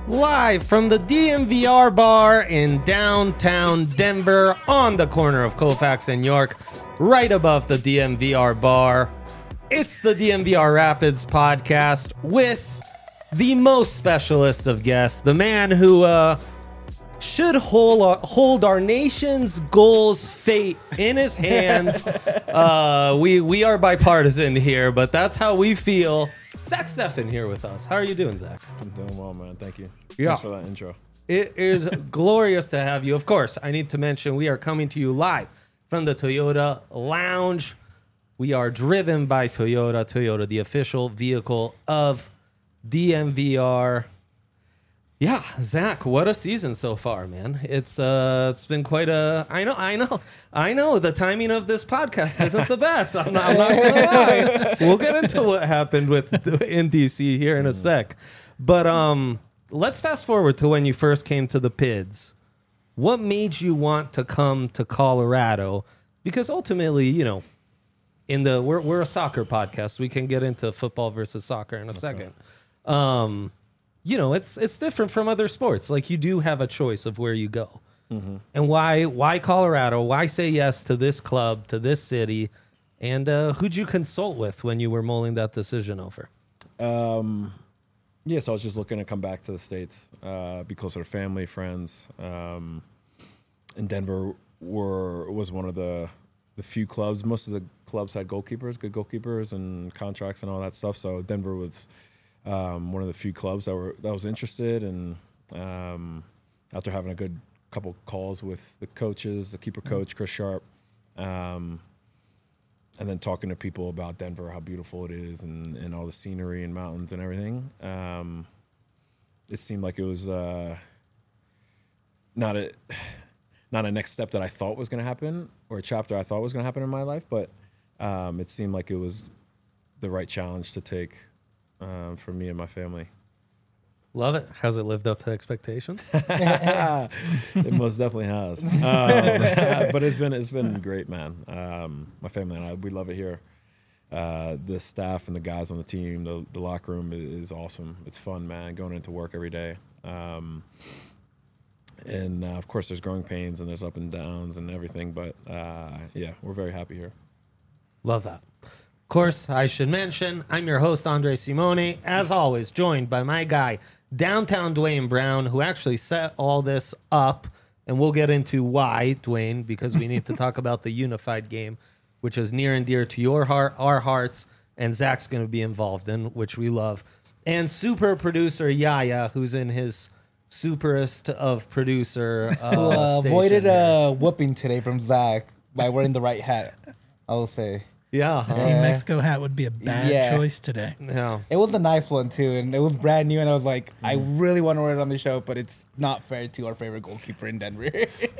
Live from the DMVR bar in downtown Denver on the corner of Colfax and York, right above the DMVR bar. It's the DMVR Rapids podcast with the most specialist of guests, the man who should hold our nation's goals fate in his hands. We are bipartisan here, but that's how we feel. Zach Steffen here with us. How are you doing, Zach? I'm doing well, man. Thank you. Yeah. Thanks for that intro. It is glorious to have you. Of course, I need to mention we are coming to you live from the Toyota Lounge. We are driven by Toyota. Toyota, the official vehicle of DMVR. Yeah, Zach, what a season so far, man. It's been quite a I know the timing of this podcast isn't the best. I'm not gonna lie. We'll get into what happened in DC here in a sec. But let's fast forward to when you first came to the PIDs. What made you want to come to Colorado? Because ultimately, you know, we're a soccer podcast. We can get into football versus soccer in a second. You know, it's different from other sports. Like, you do have a choice of where you go. Mm-hmm. And why Colorado? Why say yes to this club, to this city? And who'd you consult with when you were mulling that decision over? Yeah, so I was just looking to come back to the States, be closer to family, friends. And Denver was one of the few clubs. Most of the clubs had good goalkeepers and contracts and all that stuff. So Denver was one of the few clubs that was interested, and after having a good couple calls with the coaches, the keeper coach Chris Sharp, and then talking to people about Denver, how beautiful it is, and all the scenery and mountains and everything, it seemed like it was not a next step that I thought was going to happen, or a chapter I thought was going to happen in my life, but it seemed like it was the right challenge to take. For me and my family. Love it. Has it lived up to expectations? It most definitely has. But it's been great, man. My family and I, we love it here. The staff and the guys on the team, the locker room is awesome. It's fun, man, going into work every day. And of course, there's growing pains and there's up and downs and everything. But yeah, we're very happy here. Love that. Of course, I should mention, I'm your host, Andre Simone, as always, joined by my guy, Downtown Dwayne Brown, who actually set all this up, and we'll get into why, Dwayne, because we need to talk about the unified game, which is near and dear to your heart, our hearts, and Zach's going to be involved in, which we love. And super producer Yaya, who's in his superest of producer who avoided a whooping today from Zach by wearing the right hat, I will say. Yeah. Team Mexico hat would be a bad choice today. Yeah. It was a nice one, too, and it was brand new, and I was like, I really want to wear it on the show, but it's not fair to our favorite goalkeeper in Denver.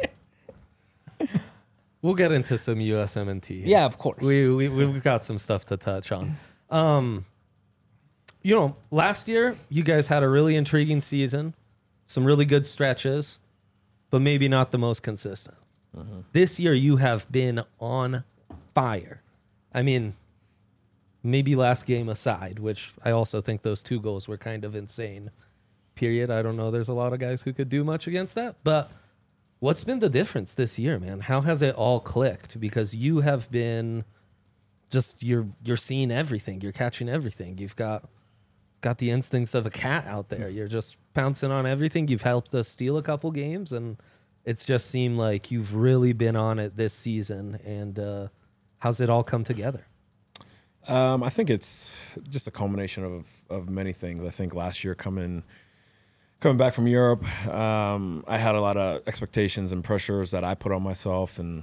We'll get into some USMNT. Yeah, of course. We've got some stuff to touch on. You know, last year, you guys had a really intriguing season, some really good stretches, but maybe not the most consistent. Mm-hmm. This year, you have been on fire. I mean, maybe last game aside, which I also think those 2 goals were kind of insane, period. I don't know. There's a lot of guys who could do much against that. But what's been the difference this year, man? How has it all clicked? Because you have been just, you're seeing everything. You're catching everything. You've got the instincts of a cat out there. You're just pouncing on everything. You've helped us steal a couple games, and it's just seemed like you've really been on it this season. And how's it all come together? I think it's just a culmination of many things. I think last year coming back from Europe, I had a lot of expectations and pressures that I put on myself, and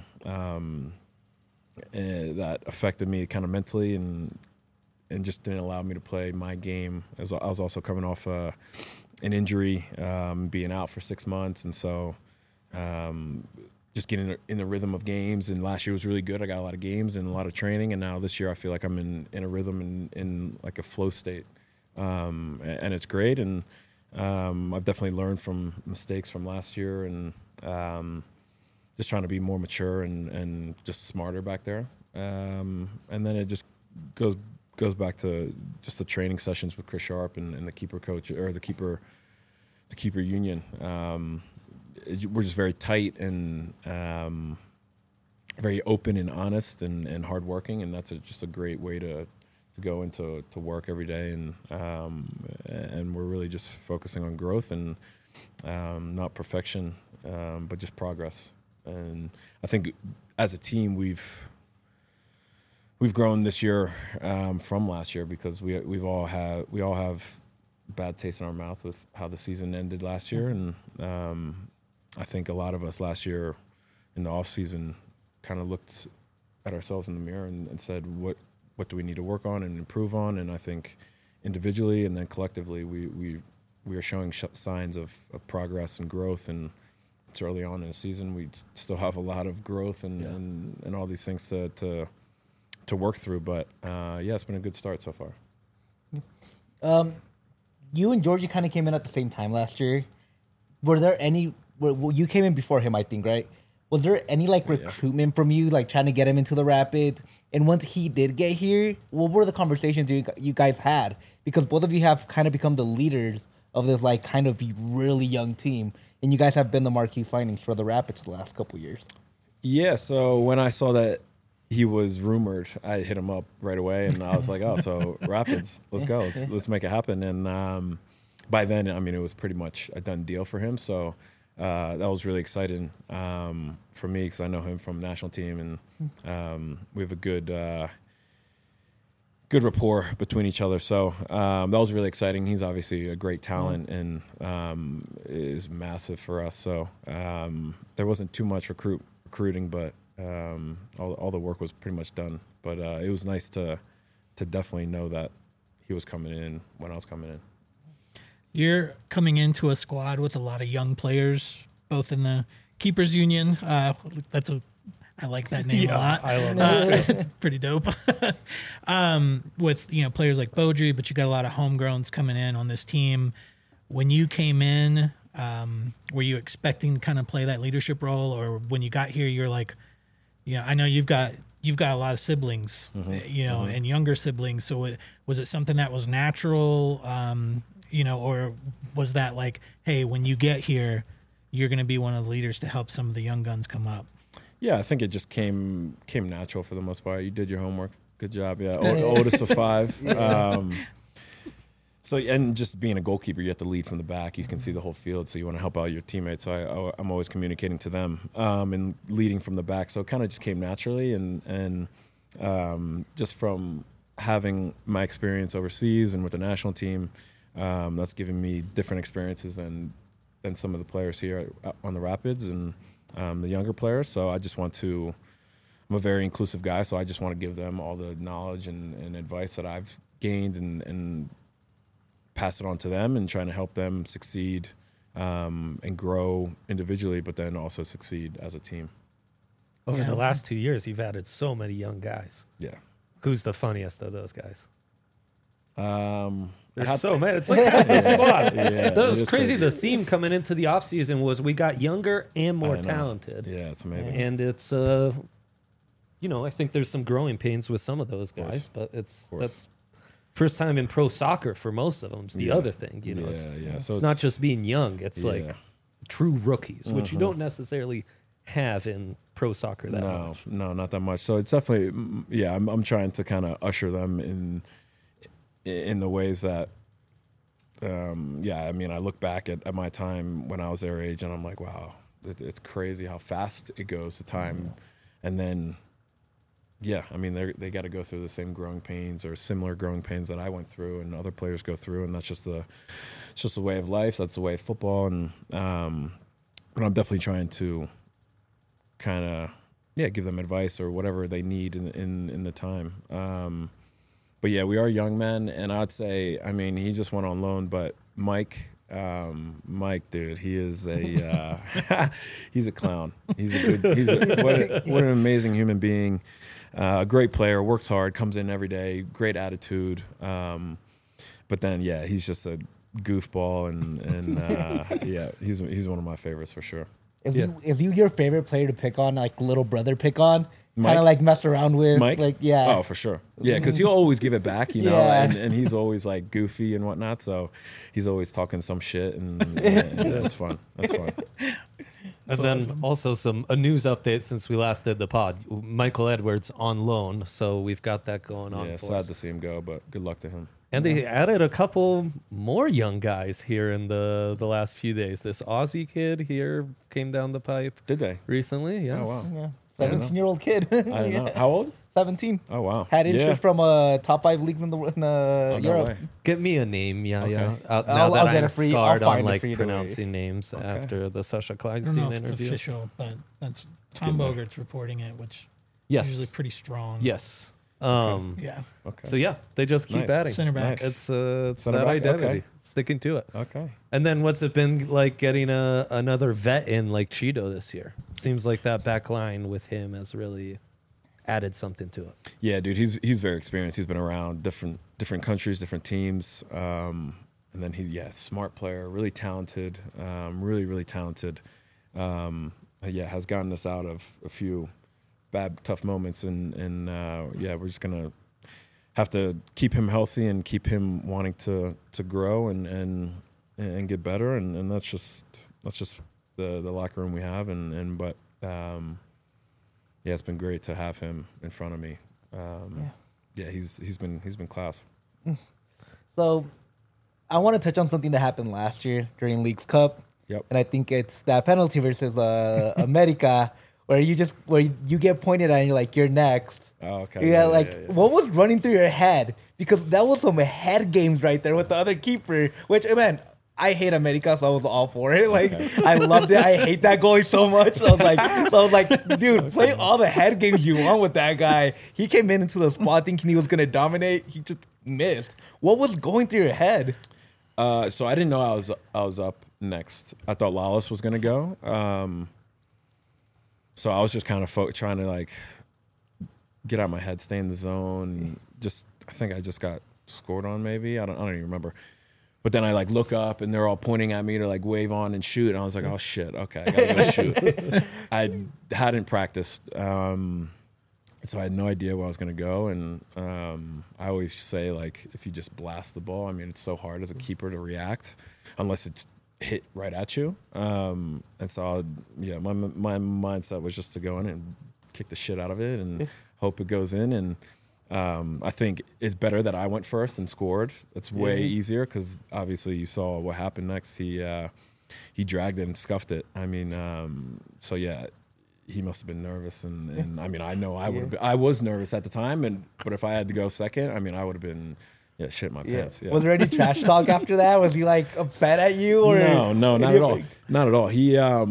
that affected me kind of mentally and just didn't allow me to play my game. I was also coming off an injury, being out for 6 months, and so just getting in the rhythm of games. And last year was really good. I got a lot of games and a lot of training, and now this year I feel like I'm in a rhythm and in like a flow state, and it's great. And I've definitely learned from mistakes from last year, and just trying to be more mature and just smarter back there. And then it just goes back to just the training sessions with Chris Sharp and the keeper coach, or the keeper keeper union. We're just very tight and very open and honest and hardworking, and that's just a great way to go into work every day, and we're really just focusing on growth and not perfection, but just progress. And I think as a team we've grown this year from last year because we all have bad taste in our mouth with how the season ended last year, and I think a lot of us last year in the off season kind of looked at ourselves in the mirror and said, what do we need to work on and improve on? And I think individually and then collectively we are showing signs of progress and growth, and it's early on in the season. We still have a lot of growth and all these things to work through, but it's been a good start so far. You and Georgie kind of came in at the same time last year. Were there any? Well, you came in before him, I think, right? Was there any recruitment from you, trying to get him into the Rapids? And once he did get here, what were the conversations you guys had? Because both of you have kind of become the leaders of this kind of really young team, and you guys have been the marquee signings for the Rapids the last couple years. Yeah. So when I saw that he was rumored, I hit him up right away, and I was like, "Oh, so Rapids, let's go, let's make it happen." And by then, I mean, it was pretty much a done deal for him. So that was really exciting for me because I know him from national team, and we have a good rapport between each other. So that was really exciting. He's obviously a great talent and is massive for us. So there wasn't too much recruiting, but all the work was pretty much done. But it was nice to definitely know that he was coming in when I was coming in. You're coming into a squad with a lot of young players, both in the Keepers Union. I like that name a lot. I love that. It's pretty dope. With players like Beaudry, but you got a lot of homegrowns coming in on this team. When you came in, were you expecting to kind of play that leadership role, or when you got here, you're like, I know you've got a lot of siblings, and younger siblings. So was it something that was natural? Or was that like, hey, when you get here, you're going to be one of the leaders to help some of the young guns come up? Yeah, I think it just came natural for the most part. You did your homework. Good job. Yeah, oldest of 5. So, and just being a goalkeeper, you have to lead from the back. You can see the whole field, so you want to help out your teammates. So I'm always communicating to them and leading from the back. So it kind of just came naturally, and just from having my experience overseas and with the national team, that's given me different experiences than some of the players here on the Rapids and the younger players. So I'm a very inclusive guy, so I just want to give them all the knowledge and advice that I've gained and pass it on to them, and trying to help them succeed and grow individually, but then also succeed as a team. Over the last 2 years, you've added so many young guys. Yeah. Who's the funniest of those guys? There's so many. It's like half the squad. Yeah, that was crazy. The theme coming into the offseason was we got younger and more talented. Yeah, it's amazing. And it's, I think there's some growing pains with some of those guys, but that's first time in pro soccer for most of them. It's the other thing, So it's not just being young. It's like true rookies, which you don't necessarily have in pro soccer that much. No, not that much. So it's definitely, I'm trying to kind of usher them in the ways that, I look back at my time when I was their age, and I'm like, wow, it's crazy how fast it goes, the time. And then, they got to go through the same growing pains or similar growing pains that I went through and other players go through. And that's just the way of life. That's the way of football. And, but I'm definitely trying to kind of, give them advice or whatever they need in the time. But we are young men, and I'd say, he just went on loan, but Mike, dude, he is he's a clown. What an amazing human being. A great player, works hard, comes in every day, great attitude. But then, he's just a goofball, and he's one of my favorites for sure. Is he your favorite player to pick on, like little brother pick on? kind of like mess around with. Mike? Like, yeah. Oh, for sure. Yeah, because he'll always give it back, you know, Yeah. and he's always like goofy and whatnot. So he's always talking some shit, and that's fun. That's fun. And then also a news update since we last did the pod. Michael Edwards on loan, so we've got that going on. Yeah, for sad us. to see him go, but good luck to him. And they added a couple more young guys here in the last few days. This Aussie kid here came down the pipe Did they? recently. Yes. Oh, wow. Yeah. I don't know. 17-year-old kid. I don't know. How old? 17. Oh, wow. Had Yeah. interest from top 5 leagues in Oh, the no Europe. way. Get me a name, yeah. Okay. Now I'll that get I'm it for you. I'll scarred on find it like for you, don't worry. pronouncing names after the Sasha I don't know Kleinstein if it's interview. official, but that's Tom good, Bogart's reporting it, which Yes. is usually pretty strong. Yes. Yeah. Okay. So yeah, they just keep Nice. adding. Center back. Nice. It's Center that back, identity, okay. sticking to it. Okay. And then what's it been like getting another vet in like Cheeto this year? Seems like that back line with him has really added something to it. Yeah, dude, he's very experienced. He's been around different countries, different teams, and then he's smart player, really talented, really talented. Has gotten us out of a few bad, tough moments, and we're just gonna have to keep him healthy and keep him wanting to grow and get better, and that's just the locker room we have, but. Yeah, it's been great to have him in front of me. He's been class. So I want to touch on something that happened last year during Leagues Cup. Yep. And I think it's that penalty versus America where you get pointed at and you're like, you're next. Oh, okay. Yeah, what was running through your head? Because that was some head games right there with the other keeper, which, man, I hate America, so I was all for it. Like, I loved it. I hate that goalie so much. So I was like, dude, play all the head games you want with that guy. He came into the spot thinking he was going to dominate. He just missed. What was going through your head? So I didn't know I was up next. I thought Lawless was gonna go. So I was just kind of trying to like get out my head, stay in the zone. I think I just got scored on. Maybe I don't even remember. But then I like look up and they're all pointing at me to like wave on and shoot. And I was like, oh shit, okay, I gotta go shoot. I hadn't practiced. So I had no idea where I was going to go. And I always say, like, if you just blast the ball, I mean, it's so hard as a keeper to react unless it's hit right at you. And so, my mindset was just to go in and kick the shit out of it and hope it goes in. And I think it's better that I went first and scored. It's way easier because obviously you saw what happened next. He dragged it and scuffed it. I mean, he must have been nervous, and I mean, I know I was nervous at the time, but if I had to go second, I mean, I would have been shit my pants. Yeah. Was there any trash talk after that? Was he like upset at you? Or No, not at all. Not at all. He not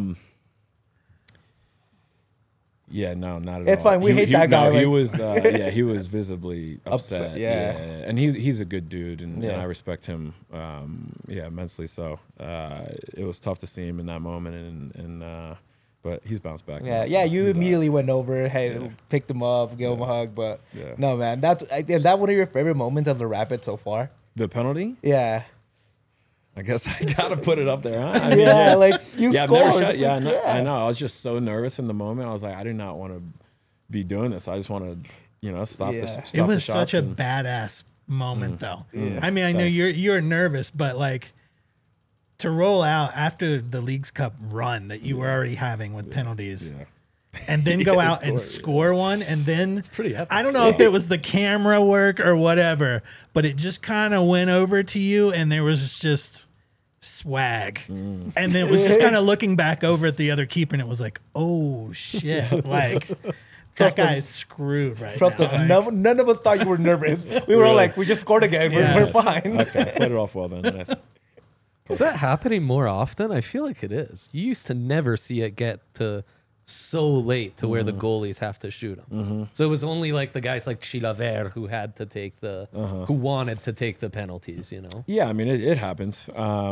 at all. It's fine. We hate that guy. No, he was he was visibly upset. Yeah. And he's a good dude, and I respect him immensely. So it was tough to see him in that moment, and but he's bounced back. You immediately went over, picked him up, gave him a hug. But no, man, is that one of your favorite moments as a Rapid so far? The penalty? Yeah. I guess I gotta put it up there, huh? I mean, you I've scored. never shot. I know. I was just so nervous in the moment. I was like, I do not want to be doing this. I just want to, stop the shots. It was such a badass moment, though. Yeah. I mean, I know you're nervous, but like to roll out after the Leagues Cup run that you were already having with penalties. Yeah. And then go out and score one, and then it's pretty epic. I don't know if it was the camera work or whatever, but it just kind of went over to you, and there was just swag, and then it was just kind of looking back over at the other keeper, and it was like, oh shit, like that guy's screwed right Trust now. us, none of us thought you were nervous. We were all like, we just scored again. We're fine. Okay, played it off well then. Nice. Is that happening more often? I feel like it is. You used to never see it get to so late to where the goalies have to shoot them. So it was only like the guys like Chilaver who had to take who wanted to take the penalties, Yeah, I mean, it happens.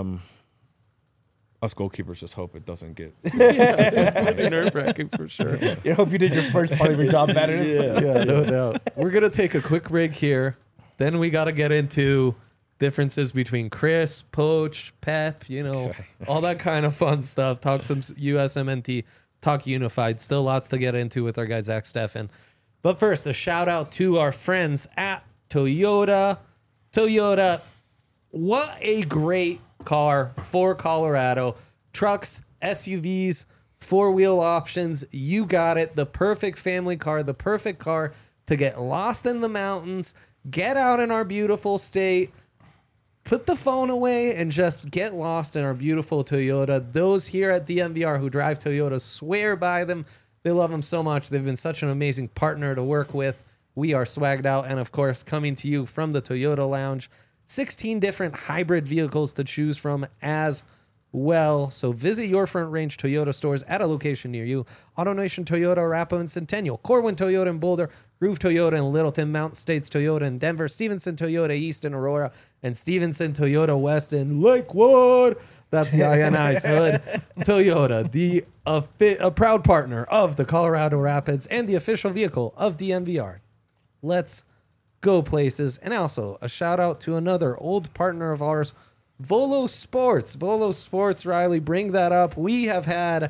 Us goalkeepers just hope it doesn't get nerve-wracking for sure. You hope you did your first part of your job better. Yeah, no doubt. We're going to take a quick break here. Then we got to get into differences between Chris, Poach, Pep, all that kind of fun stuff. Talk some USMNT talk unified. Still lots to get into with our guy Zach Steffen. But first, a shout out to our friends at Toyota. Toyota, what a great car for Colorado. Trucks, SUVs, four-wheel options. You got it. The perfect family car, the perfect car to get lost in the mountains, get out in our beautiful state, put the phone away, and just get lost in our beautiful Toyota. Those here at DNVR who drive Toyota swear by them. They love them so much. They've been such an amazing partner to work with. We are swagged out. And, of course, coming to you from the Toyota Lounge, 16 different hybrid vehicles to choose from as well. So visit your Front Range Toyota stores at a location near you. AutoNation Toyota, Arapahoe and Centennial, Corwin Toyota in Boulder, Groove Toyota in Littleton, Mountain States Toyota in Denver, Stevenson Toyota East in Aurora, and Stevenson Toyota West in Lakewood. That's the INI's hood. Toyota, a proud partner of the Colorado Rapids and the official vehicle of DNVR. Let's go places. And also a shout out to another old partner of ours, Volo Sports. Volo Sports, Riley, bring that up. We have had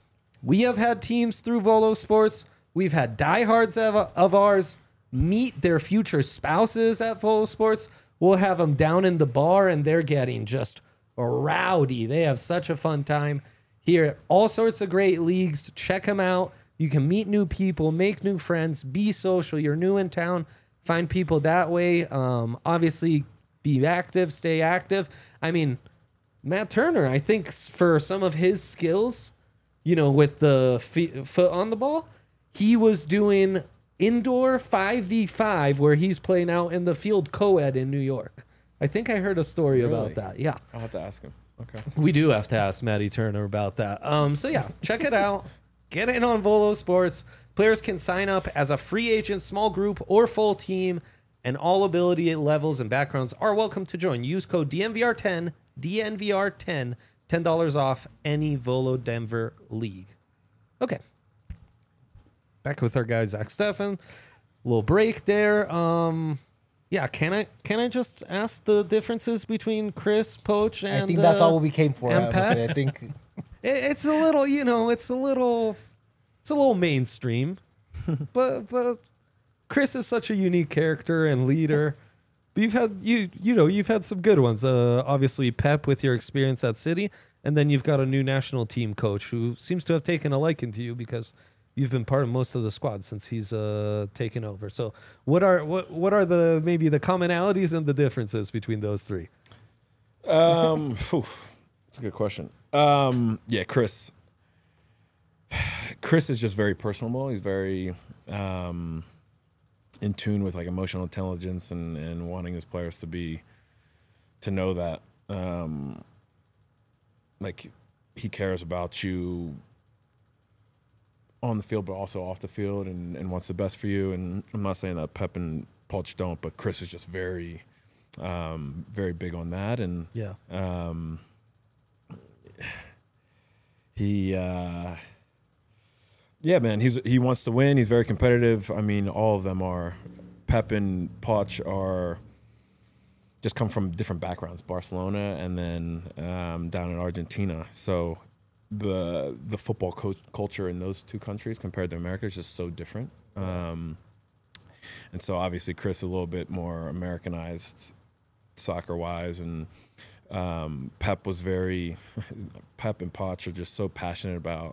teams through Volo Sports. We've had diehards of ours meet their future spouses at Volo Sports. We'll have them down in the bar, and they're getting just rowdy. They have such a fun time here. All sorts of great leagues. Check them out. You can meet new people, make new friends, be social. You're new in town. Find people that way. Obviously, be active, stay active. I mean, Matt Turner, I think for some of his skills, with the foot on the ball, he was doing indoor 5v5 where he's playing out in the field co-ed in New York. I think I heard a story about that. Yeah. I'll have to ask him. Okay. We do have to ask Matty Turner about that. So yeah, check it out. Get in on Volo Sports. Players can sign up as a free agent, small group, or full team, and all ability levels and backgrounds are welcome to join. Use code DNVR10, DNVR10, $10 off any Volo Denver league. Okay. Back with our guy, Zach Steffen. Little break there. Yeah, can I just ask the differences between Chris, Poach, and I think that's all we came for. and Pat? I think it's a little, it's a little mainstream, but Chris is such a unique character and leader. But you've had some good ones. Obviously Pep with your experience at City, and then you've got a new national team coach who seems to have taken a liking to you because you've been part of most of the squad since he's taken over. So what are the maybe the commonalities and the differences between those three? That's a good question. Yeah, Chris is just very personable. He's very in tune with like emotional intelligence and wanting his players to know that like he cares about you on the field, but also off the field, and wants the best for you. And I'm not saying that Pep and Poch don't, but Chris is just very, very big on that. And Yeah. Yeah, man, he wants to win. He's very competitive. I mean, all of them are. Pep and Poch are just come from different backgrounds, Barcelona and then down in Argentina. So the football culture in those two countries compared to America is just so different. And so obviously Chris is a little bit more Americanized soccer-wise, and Pep was very Pep and Poch are just so passionate about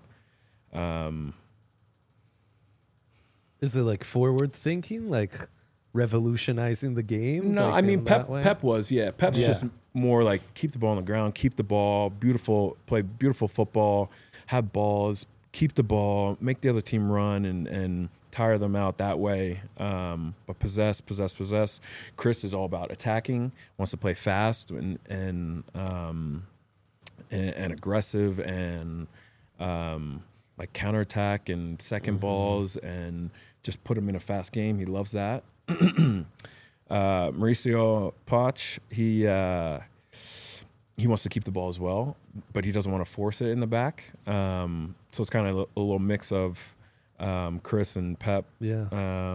Is it like forward thinking, like revolutionizing the game? No, like I mean in that way? Pep was, yeah. Pep's just more like keep the ball on the ground, keep the ball, play beautiful football, have balls, keep the ball, make the other team run and tire them out that way. But possess. Chris is all about attacking, wants to play fast and aggressive and like counterattack and second balls and just put him in a fast game. He loves that. Mauricio Poch, he wants to keep the ball as well, but he doesn't want to force it in the back. So it's kind of a little mix of Chris and Pep. Yeah.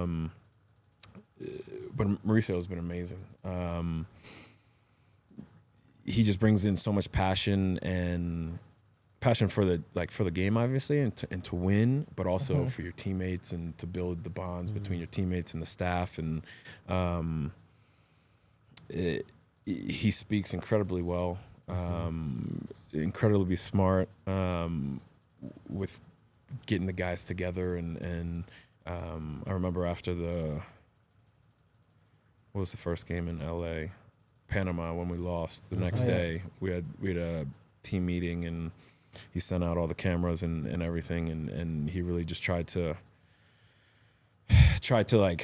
But Mauricio has been amazing. He just brings in so much passion and passion for the game, obviously, and to win, but also for your teammates and to build the bonds between your teammates and the staff. And he speaks incredibly well, incredibly smart, with getting the guys together. And I remember after what was the first game in LA? Panama, when we lost. The next day, we had a team meeting, and he sent out all the cameras and everything, and he really just tried to like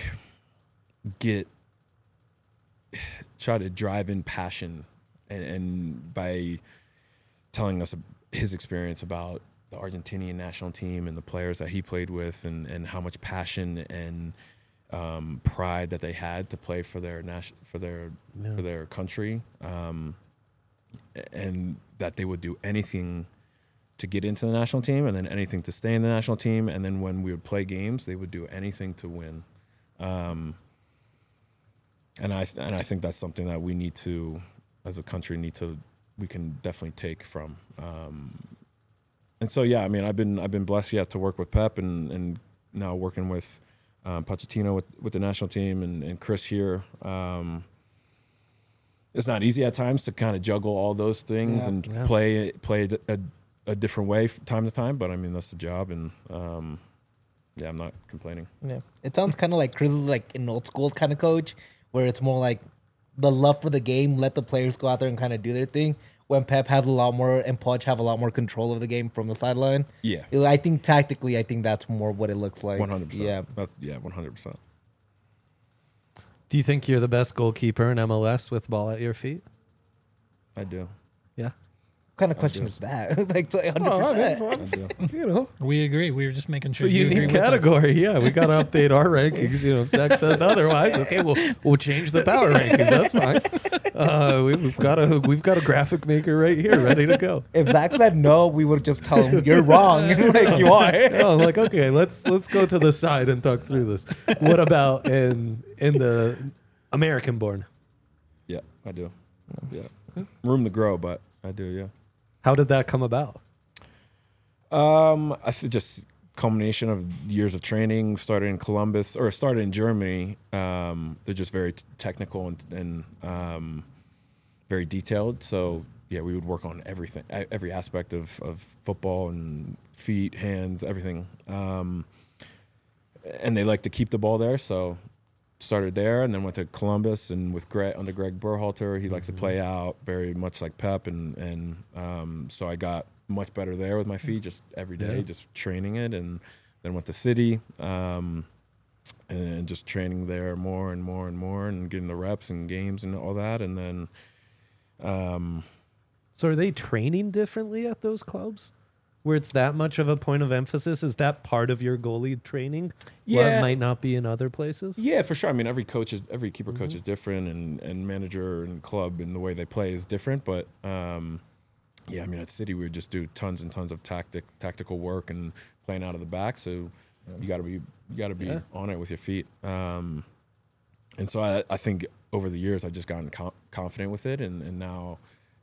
try to drive in passion, and by telling us his experience about the Argentinian national team and the players that he played with, and how much passion and pride that they had to play for their country, and that they would do anything to get into the national team, and then anything to stay in the national team, and then when we would play games, they would do anything to win. And I think that's something that we need to, as a country, we can definitely take from. And so yeah, I mean, I've been blessed to work with Pep, and now working with Pochettino with the national team, and Chris here. It's not easy at times to kind of juggle all those things and play a different way from time to time, but I mean, that's the job, and I'm not complaining. Yeah, it sounds kind of like Chris is like an old school kind of coach, where it's more like the love for the game, let the players go out there and kind of do their thing. When Pep has a lot more, and Poch have a lot more control of the game from the sideline. Yeah, I think tactically, that's more what it looks like. 100%. Yeah, 100%. Do you think you're the best goalkeeper in MLS with ball at your feet? I do. Yeah. What kind of question is that? Like 100%. I do. You know, We agree. We were just making sure. it's a you agree unique with us. category. Yeah, we got to update our rankings. You know, if Zach says otherwise, okay, we'll change the power rankings. That's fine. We've got a graphic maker right here, ready to go. If Zach said no, we would just tell him you're wrong. Like you are. No, I'm like, okay, let's go to the side and talk through this. What about in the American born? Yeah, I do. Yeah, room to grow, but I do. Yeah. How did that come about? I think just culmination of years of training. Started in Columbus, or started in Germany. They're just very technical and very detailed. So yeah, we would work on everything, every aspect of football, and feet, hands, everything. And they like to keep the ball there, so started there, and then went to Columbus, and with under Greg Berhalter, he likes to play out very much like Pep, and so I got much better there with my feet, just every day, just training it, and then went to City, and just training there more and more and more, and getting the reps and games and all that, and then. So are they training differently at those clubs, where it's that much of a point of emphasis? Is that part of your goalie training? Where Yeah. it might not be in other places? Yeah, for sure. I mean, every keeper coach is different, and manager and club and the way they play is different. But yeah, I mean, at City we would just do tons and tons of tactical work and playing out of the back. So you got to be on it with your feet. And so I think over the years I've just gotten confident with it, and now.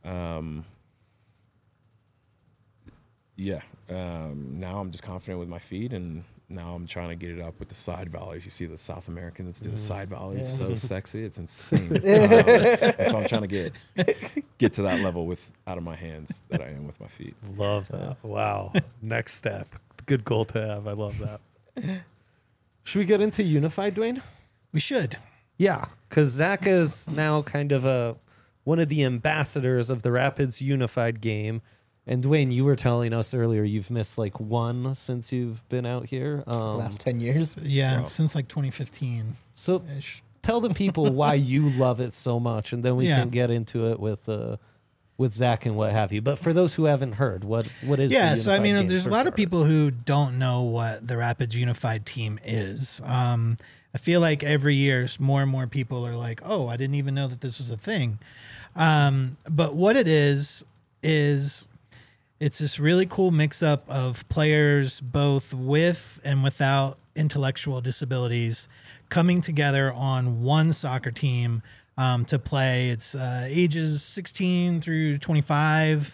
Now I'm just confident with my feet, and now I'm trying to get it up with the side volleys. You see the South Americans do the side volleys, so sexy, it's insane. And so I'm trying to get to that level out of my hands that I am with my feet. Love that. Wow. Next step. Good goal to have. I love that. Should we get into Unified, Dwayne? We should. Yeah, because Zach is now kind of one of the ambassadors of the Rapids Unified game. And Dwayne, you were telling us earlier you've missed like one since you've been out here. Last 10 years. Yeah, Wow. since like 2015 So ish. tell the people why you love it so much, and then we can get into it with Zach and what have you. But for those who haven't heard, what is Yeah, the so I Unified mean, game, there's a for lot of people starters? who don't know what the Rapids Unified Team is. I feel like every year more and more people are like, "Oh, I didn't even know that this was a thing." But what it is it's this really cool mix-up of players both with and without intellectual disabilities coming together on one soccer team to play. It's ages 16 through 25.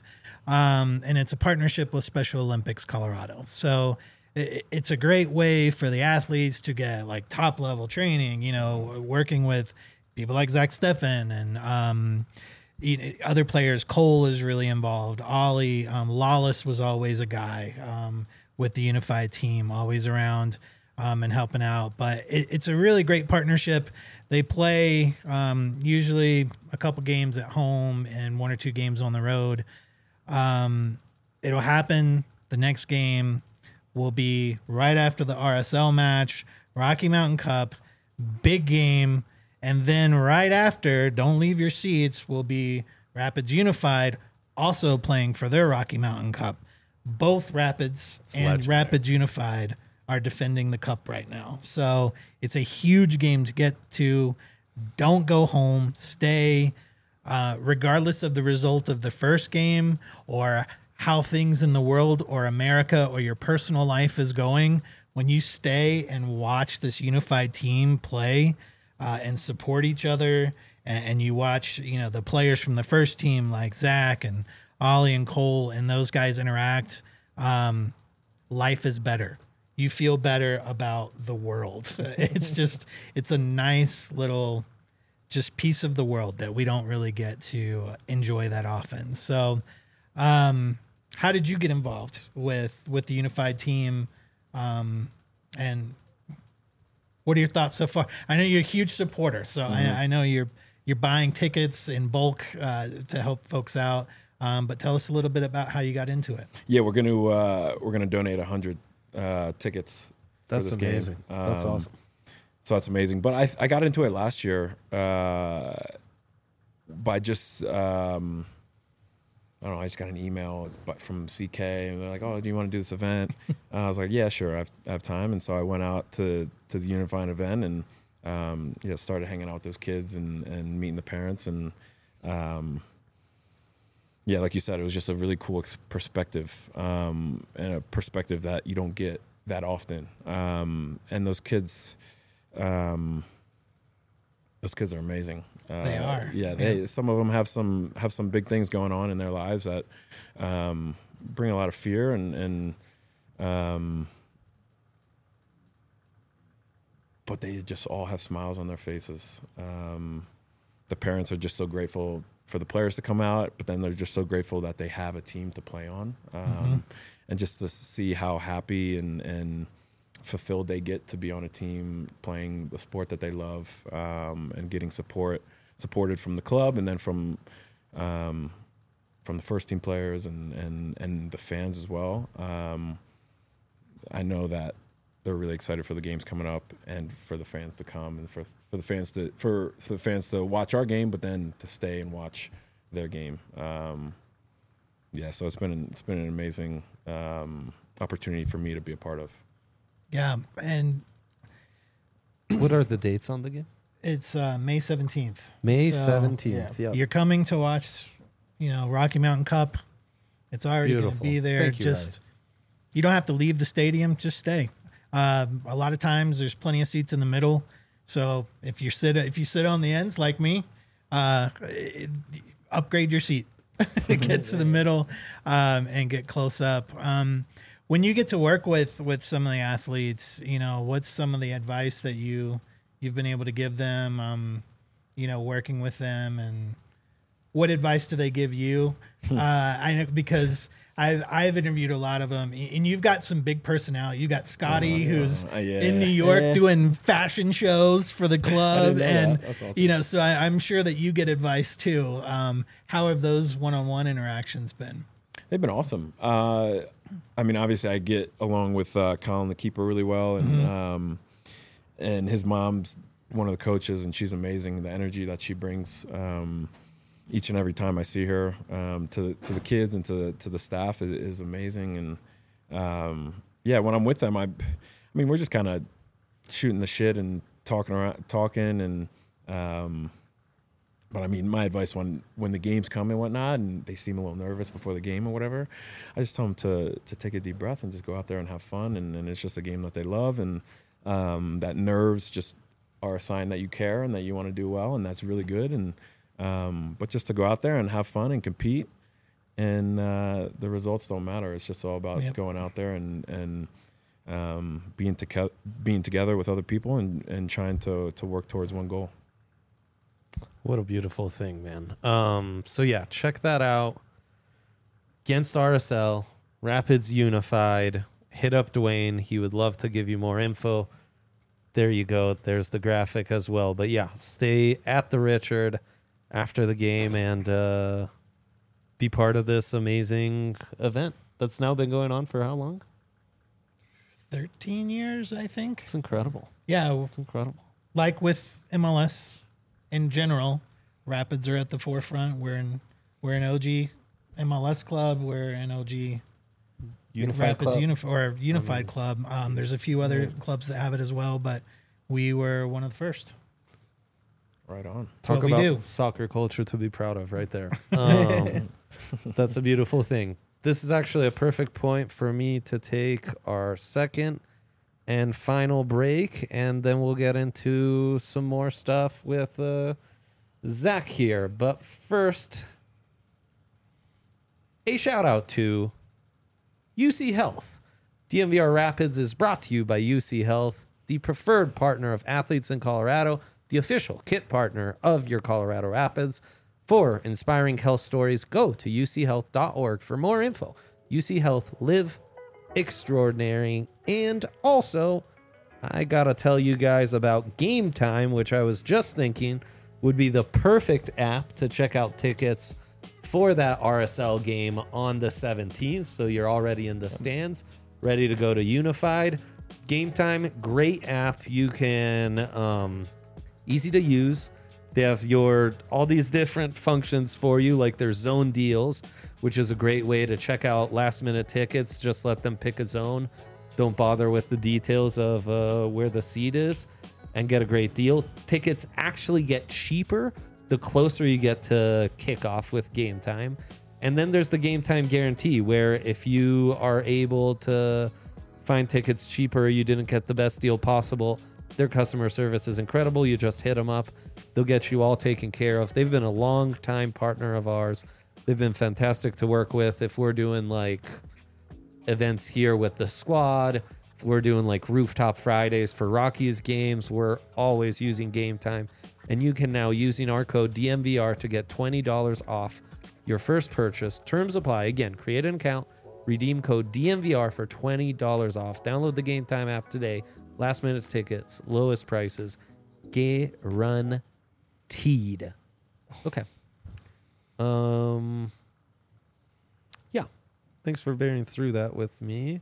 and it's a partnership with Special Olympics Colorado. So it's a great way for the athletes to get like top level training, you know, working with people like Zach Steffen and other players. Cole is really involved. Ollie, Lawless was always a guy with the unified team, always around and helping out. But it's a really great partnership. They play usually a couple games at home and 1 or 2 games on the road. It'll happen. The next game will be right after the RSL match, Rocky Mountain Cup, big game. And then right after, don't leave your seats, will be Rapids Unified also playing for their Rocky Mountain Cup. Both Rapids and legendary. Rapids Unified are defending the cup right now. So it's a huge game to get to. Don't go home. Stay. Regardless of the result of the first game or how things in the world or America or your personal life is going, when you stay and watch this unified team play and support each other, and you watch, you know, the players from the first team like Zach and Ollie and Cole and those guys interact, life is better. You feel better about the world. It's a nice little just piece of the world that we don't really get to enjoy that often. So, how did you get involved with the unified team? And what are your thoughts so far? I know you're a huge supporter, so I know you're buying tickets in bulk to help folks out. But tell us a little bit about how you got into it. Yeah, we're gonna donate 100 tickets. That's for this amazing. Game. That's awesome. So that's amazing. But I got into it last year by just I don't know. I just got an email from CK and they're like, "Oh, do you want to do this event?" I was like, "Yeah, sure. I have time." And so I went out to the Unified event and started hanging out with those kids and meeting the parents and yeah, like you said, it was just a really cool perspective and a perspective that you don't get that often. And those kids are amazing. They are. Yeah, some of them have some big things going on in their lives that bring a lot of fear and but they just all have smiles on their faces. The parents are just so grateful for the players to come out, but then they're just so grateful that they have a team to play on, and just to see how happy and fulfilled they get to be on a team playing the sport that they love, and getting supported from the club and then from the first team players and the fans as well. I know that they're really excited for the games coming up and for the fans to come and for the fans to watch our game, but then to stay and watch their game. Yeah, so it's been an amazing opportunity for me to be a part of. Yeah, and What are the dates on the game? it's May 17th. May So, 17th. Yeah. You're coming to watch, Rocky Mountain Cup. It's already going to Beautiful. be there. Thank you, Just you don't have to leave the stadium. Just stay. A lot of times there's plenty of seats in the middle. So if you sit on the ends like me, upgrade your seat, get to the middle, and get close up. When you get to work with some of the athletes, what's some of the advice that you've been able to give them, working with them, and what advice do they give you? I know because I've interviewed a lot of them, and you've got some big personality. You got Scotty, who's in New York doing fashion shows for the club, and That's awesome. so I'm sure that you get advice too. How have those one-on-one interactions been? They've been awesome. I mean, obviously, I get along with Colin, the keeper, really well, and his mom's one of the coaches, and she's amazing. The energy that she brings each and every time I see her to the kids and to the staff is amazing. And when I'm with them, I mean, we're just kind of shooting the shit and talking, and. But I mean, my advice when the games come and whatnot, and they seem a little nervous before the game or whatever, I just tell them to take a deep breath and just go out there and have fun. And it's just a game that they love, and that nerves just are a sign that you care and that you want to do well, and that's really good. And but just to go out there and have fun and compete, and the results don't matter. It's just all about Yep. going out there and being together with other people and trying to work towards one goal. What a beautiful thing, man. So yeah, check that out. Against RSL, Rapids Unified. Hit up Dwayne. He would love to give you more info. There you go. There's the graphic as well. But yeah, stay at the Richard after the game and be part of this amazing event that's now been going on for how long? 13 years, I think. It's incredible. Yeah, It's incredible. like with MLS in general, Rapids are at the forefront. We're an OG MLS club. We're an OG Unified Rapids Club. Unified Club. There's a few other clubs that have it as well, but we were one of the first. Right on. Talk what we about do. soccer culture to be proud of right there. That's a beautiful thing. This is actually a perfect point for me to take our second and final break, and then we'll get into some more stuff with Zach here. But first, a shout out to UC Health. DMVR Rapids is brought to you by UC Health, the preferred partner of athletes in Colorado, the official kit partner of your Colorado Rapids. For inspiring health stories, go to uchealth.org for more info. UC Health, live extraordinary. And also, I gotta tell you guys about Game Time, which I was just thinking would be the perfect app to check out tickets for that RSL game on the 17th. So you're already in the stands, ready to go to Unified. Game Time, great app. You can, easy to use. They have all these different functions for you, like their zone deals, which is a great way to check out last minute tickets. Just let them pick a zone. Don't bother with the details of where the seat is and get a great deal. Tickets actually get cheaper the closer you get to kickoff with Game Time. And then there's the Game Time guarantee, where if you are able to find tickets cheaper, you didn't get the best deal possible, their customer service is incredible. You just hit them up. They'll get you all taken care of. They've been a long time partner of ours. They've been fantastic to work with. If we're doing like events here with the squad, if we're doing like Rooftop Fridays for Rockies games, we're always using Game Time. And you can now, using our code DMVR, to get $20 off your first purchase. Terms apply. Again, create an account, redeem code DMVR for $20 off. Download the Game Time app today. Last minute tickets, lowest prices, guaranteed. Okay. Yeah. Thanks for bearing through that with me.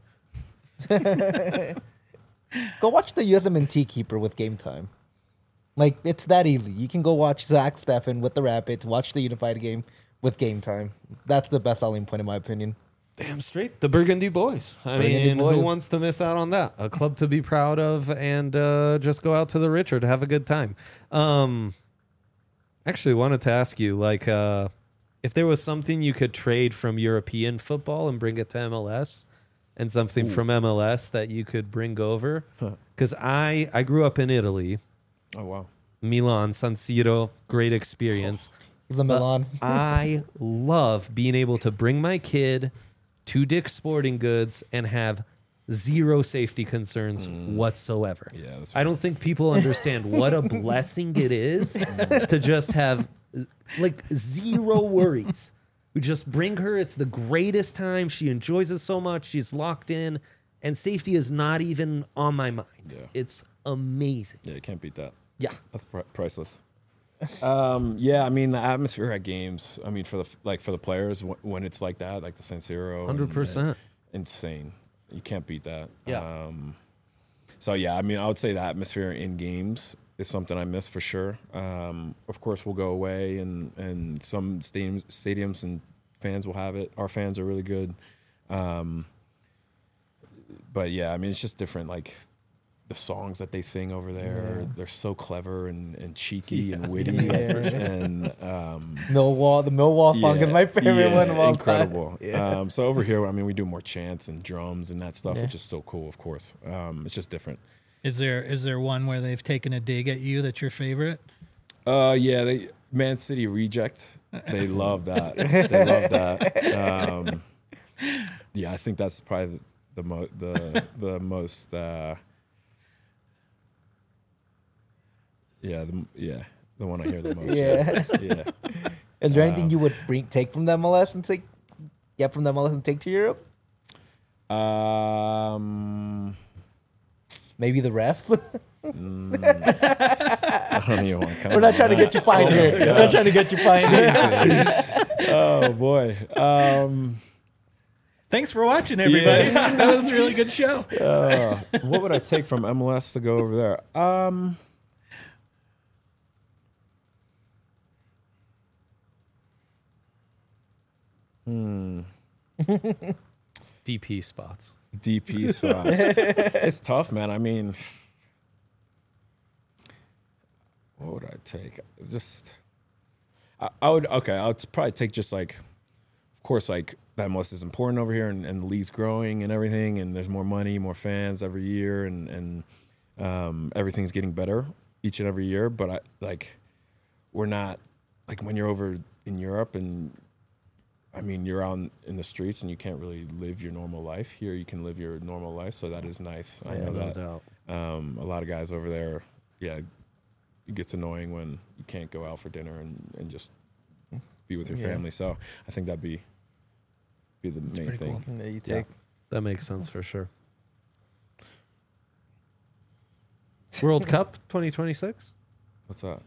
Go watch the USMNT keeper with Game Time. Like, it's that easy. You can go watch Zach Steffen with the Rapids, watch the Unified game with Game Time. That's the best selling point, in my opinion. Damn straight. The Burgundy Boys. I mean, who wants to miss out on that? A club to be proud of, and just go out to the Richard to have a good time. Actually, wanted to ask you, like, if there was something you could trade from European football and bring it to MLS, and something from MLS that you could bring over. Because I grew up in Italy. Oh, wow. Milan, San Siro, great experience. He's a Milan. I love being able to bring my kid to Dick's Sporting Goods and have zero safety concerns whatsoever. Yeah, that's I don't think people understand what a blessing it is to just have like zero worries. We just bring her. It's the greatest time. She enjoys it so much. She's locked in, and safety is not even on my mind. Yeah. It's amazing. Yeah, you can't beat that. Yeah. That's priceless. Yeah, I mean, the atmosphere at games, I mean, for the players, when it's like that, like the San Siro. 100%. Insane. You can't beat that. Yeah. So, yeah, I mean, I would say the atmosphere in games is something I miss for sure. Of course, we'll go away, and some stadiums and fans will have it. Our fans are really good. But, yeah, I mean, it's just different, like, the songs that they sing over there, they're so clever and cheeky and witty. And The Millwall song is my favorite one of all incredible. time. Yeah. So over here, I mean, we do more chants and drums and that stuff, which is still cool, of course. It's just different. Is there one where they've taken a dig at you that's your favorite? Yeah, Man City reject. They love that. They love that. Yeah, I think that's probably the most. The one I hear the most. Yeah. Is there anything you would take from the MLS and get from the MLS and take to Europe? Maybe the refs. I don't even want to. We're not trying to get you fined here. We're not trying to get you fined here. Oh boy. Thanks for watching, everybody. That was a really good show. What would I take from MLS to go over there? DP spots. DP spots. It's tough, man. I mean, what would I take? I would probably take just like, of course, like the MLS is important over here, and the league's growing and everything, and there's more money, more fans every year, and everything's getting better each and every year. But we're not like when you're over in Europe, and I mean you're out in the streets and you can't really live your normal life. Here you can live your normal life, so that is nice. I know that. Doubt. A lot of guys over there, it gets annoying when you can't go out for dinner and just be with your family. So I think that'd be the main thing. Cool. Yeah, you Yeah, take. that makes sense for sure. World Cup 2026? What's that?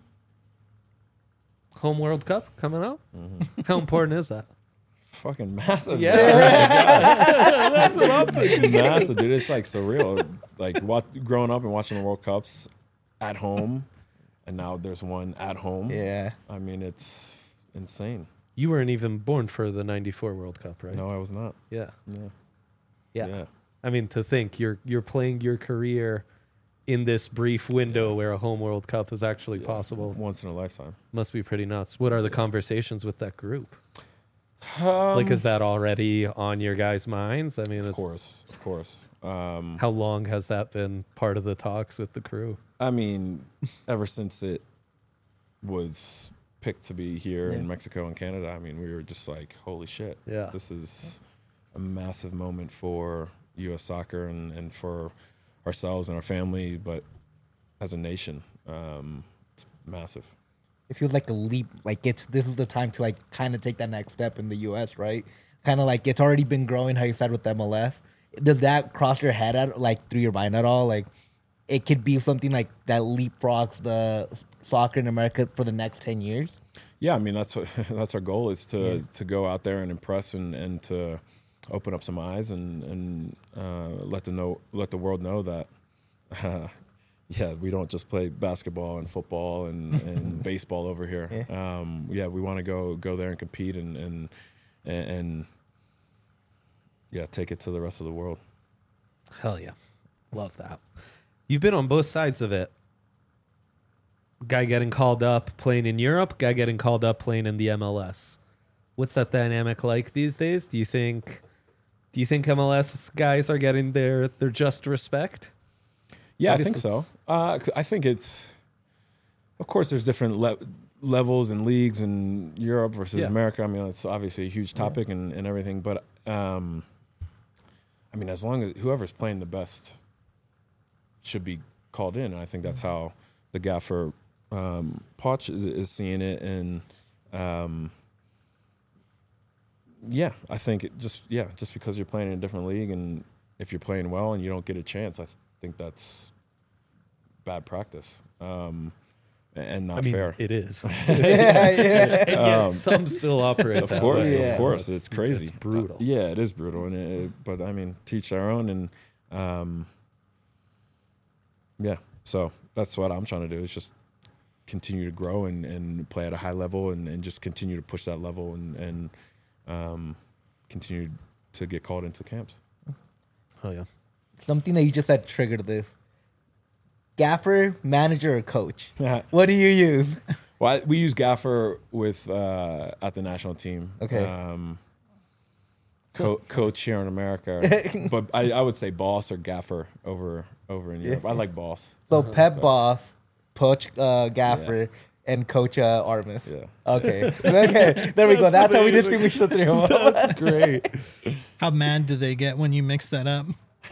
Home World Cup coming up? How important is that? Fucking massive. Yeah. That's what I'm thinking. Massive, dude. It's like surreal. Like growing up and watching the World Cups at home, and now there's one at home. Yeah. I mean, it's insane. You weren't even born for the 94 World Cup, right? No, I was not. Yeah. Yeah. Yeah. I mean, to think you're playing your career in this brief window where a home World Cup is actually possible. Once in a lifetime. Must be pretty nuts. What are the conversations with that group? Like, is that already on your guys' minds? I mean, Of course. how long has that been part of the talks with the crew? I mean, ever since it was picked to be here in Mexico and Canada, I mean, we were just like, holy shit. Yeah. This is a massive moment for U.S. soccer and for ourselves and our family, but as a nation, it's massive. It feels like a leap. Like this is the time to like kind of take that next step in the U.S., right? Kind of like it's already been growing, how you said with MLS. Does that cross your head through your mind at all? Like it could be something like that leapfrogs the soccer in America for the next 10 years? Yeah, I mean, that's our goal is to go out there and impress and to open up some eyes and let the world know that we don't just play basketball and football and baseball over here. We want to go there and compete and take it to the rest of the world. Hell yeah. Love that. You've been on both sides of it. Guy getting called up playing in Europe, guy getting called up playing in the MLS. What's that dynamic like these days? Do you think MLS guys are getting their just respect? Yeah, I think so. I think it's, of course, there's different levels and leagues in Europe versus America. I mean, it's obviously a huge topic and everything. But, I mean, as long as whoever's playing the best should be called in. And I think that's how the gaffer, Poch, is seeing it. And, I think just because you're playing in a different league and if you're playing well and you don't get a chance, I think that's bad practice and not fair. It is. And yet some still operate. Of course, that way. of course, it's crazy. It's brutal. It is brutal, but I mean, teach their own, and so that's what I'm trying to do is just continue to grow and play at a high level and just continue to push that level and continue to get called into camps. Oh yeah. Something that you just said triggered this. Gaffer, manager, or coach? What do you use? Well, we use gaffer with at the national team. Okay. Coach here in America, but I would say boss or gaffer over in Europe. I like boss. So Pep boss, Poch gaffer, and Coach Armas. Yeah. Okay. Okay. There we go. That's how we distinguish the three of them. That's great. How mad do they get when you mix that up?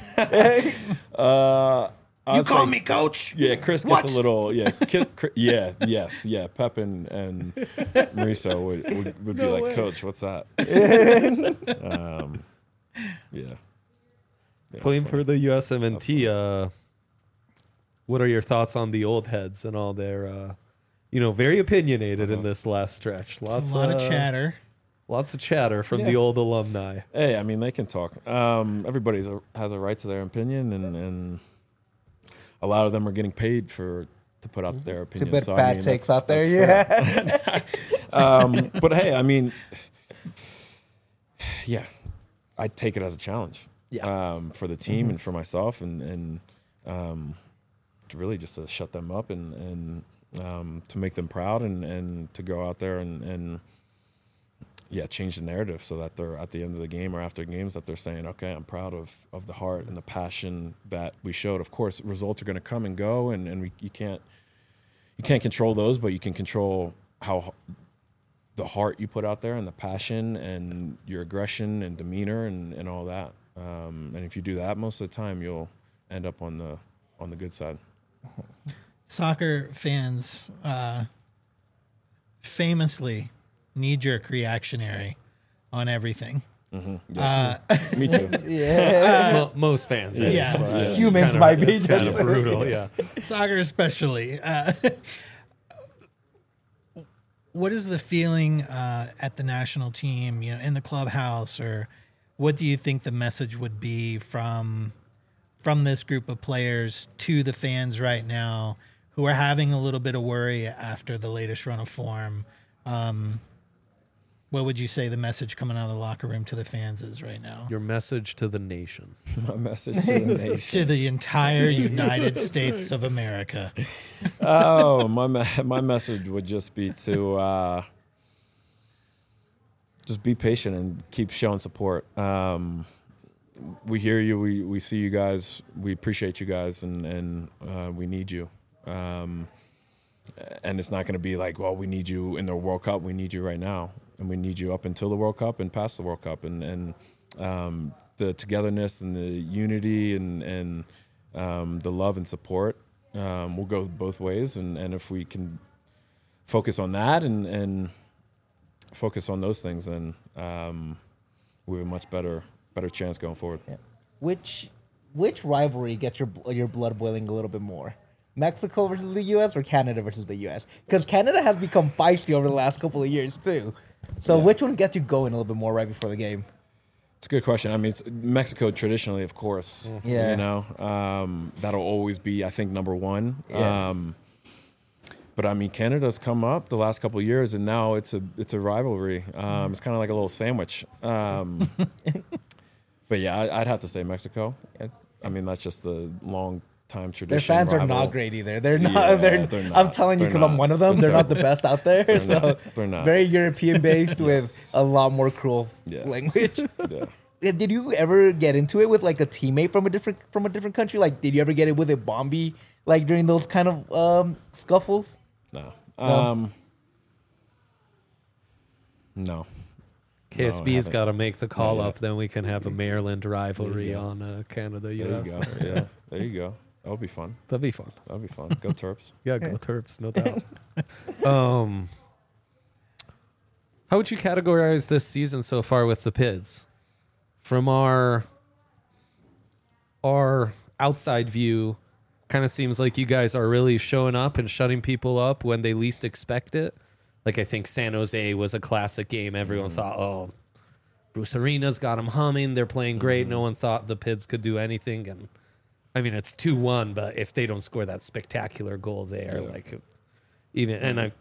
You call me coach. Yeah, Chris gets a little. Yeah, yeah. Pep and Mauricio would be like, way. Coach, what's that? Yeah. Playing it's for the USMNT, what are your thoughts on the old heads and all their, very opinionated in this last stretch? A lot of chatter. Lots of chatter from the old alumni. Hey, I mean, they can talk. Everybody has a right to their opinion, and a lot of them are getting paid to put out their To opinion. put So, bad takes out there. that's Yeah. fair. But hey, I mean, yeah, I take it as a challenge. Yeah. For the team and for myself, and to really just to shut them up and to make them proud and to go out there and change the narrative so that they're at the end of the game or after games that they're saying, okay, I'm proud of the heart and the passion that we showed. Of course, results are going to come and go, and you can't control those, but you can control how the heart you put out there and the passion and your aggression and demeanor and all that. And if you do that, most of the time you'll end up on the good side. Soccer fans famously knee-jerk reactionary on everything. Yeah. Me too. Yeah. Most fans. Yeah. but it's Humans kinda- might be it's kind just- of brutal. Yeah. Soccer especially. What is the feeling at the national team, in the clubhouse, or what do you think the message would be from this group of players to the fans right now who are having a little bit of worry after the latest run of form? What would you say the message coming out of the locker room to the fans is right now? Your message to the nation. My message to the nation. To the entire United States of America. Oh, my message would just be to just be patient and keep showing support. We hear you. We see you guys. We appreciate you guys, and we need you. And it's not going to be like, well, we need you in the World Cup. We need you right now, and we need you up until the World Cup and past the World Cup. And the togetherness and the unity and the love and support will go both ways. And if we can focus on that and focus on those things, then we have a much better chance going forward. Yeah. Which rivalry gets your blood boiling a little bit more? Mexico versus the U.S. or Canada versus the U.S.? Because Canada has become feisty over the last couple of years too. So which one gets you going a little bit more right before the game? It's a good question. I mean, it's Mexico traditionally, of course. Yeah. That'll always be, I think, number one. Yeah. But I mean, Canada's come up the last couple of years, and now it's a rivalry. It's kind of like a little sandwich. But yeah, I'd have to say Mexico. Yeah. I mean, that's just the long time tradition. Their fans are rival. not great either. They're not. Yeah, they're they're not. I'm telling you They're because I'm not. one of them. They're not the best out there. They're not. Very European based with Yes. a lot more cruel Yeah. language. Yeah. Did you ever get into it with like a teammate from a different country? Like, did you ever get it with a Bombi like during those kind of scuffles? No. No? No. KSB's got to make the call Not yet. up, then we can have a Maryland rivalry go. on Canada There you US. go. Yeah. There you go. That'll be fun. That'd be fun. That'll be fun. Go Terps. Yeah, go Terps, no doubt. How would you categorize this season so far with the Pids? From our outside view, kind of seems like you guys are really showing up and shutting people up when they least expect it. Like, I think San Jose was a classic game. Everyone thought, oh, Bruce Arena's got them humming. They're playing great. No one thought the Pids could do anything. And I mean, it's 2-1, but if they don't score that spectacular goal there, like even, and I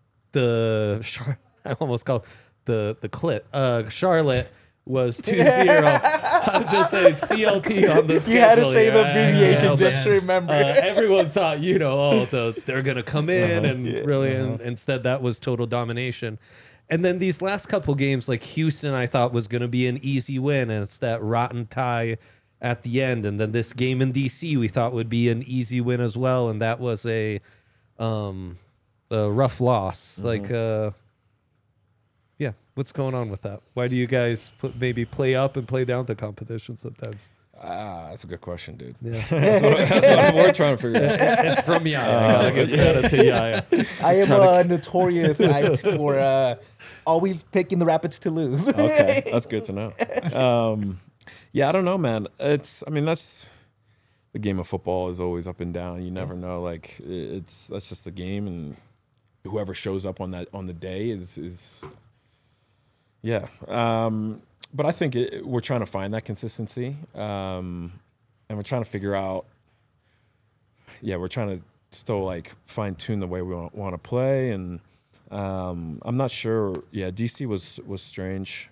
almost called Charlotte was 2-0. I'll just say CLT on the schedule. You had to say here. the abbreviation but, just to remember. everyone thought, they're going to come in and instead that was total domination. And then these last couple games, like Houston, I thought was going to be an easy win, and it's that rotten tie at the end. And then this game in DC, we thought would be an easy win as well, and that was a a rough loss. Like, yeah, what's going on with that? Why do you guys maybe play up and play down the competition sometimes? That's a good question, dude. Yeah, That's what we're trying to figure out. it's from Yaya. I gotta give credit to Yaya. I am notorious for always picking the Rapids to lose. Okay, that's good to know. Yeah, I don't know, man. That's the game of football is always up and down. You never know. Like that's just the game, and whoever shows up on the day is yeah. But I think we're trying to find that consistency, and we're trying to figure out. Yeah, we're trying to still like fine tune the way we want to play, and I'm not sure. Yeah, DC was strange.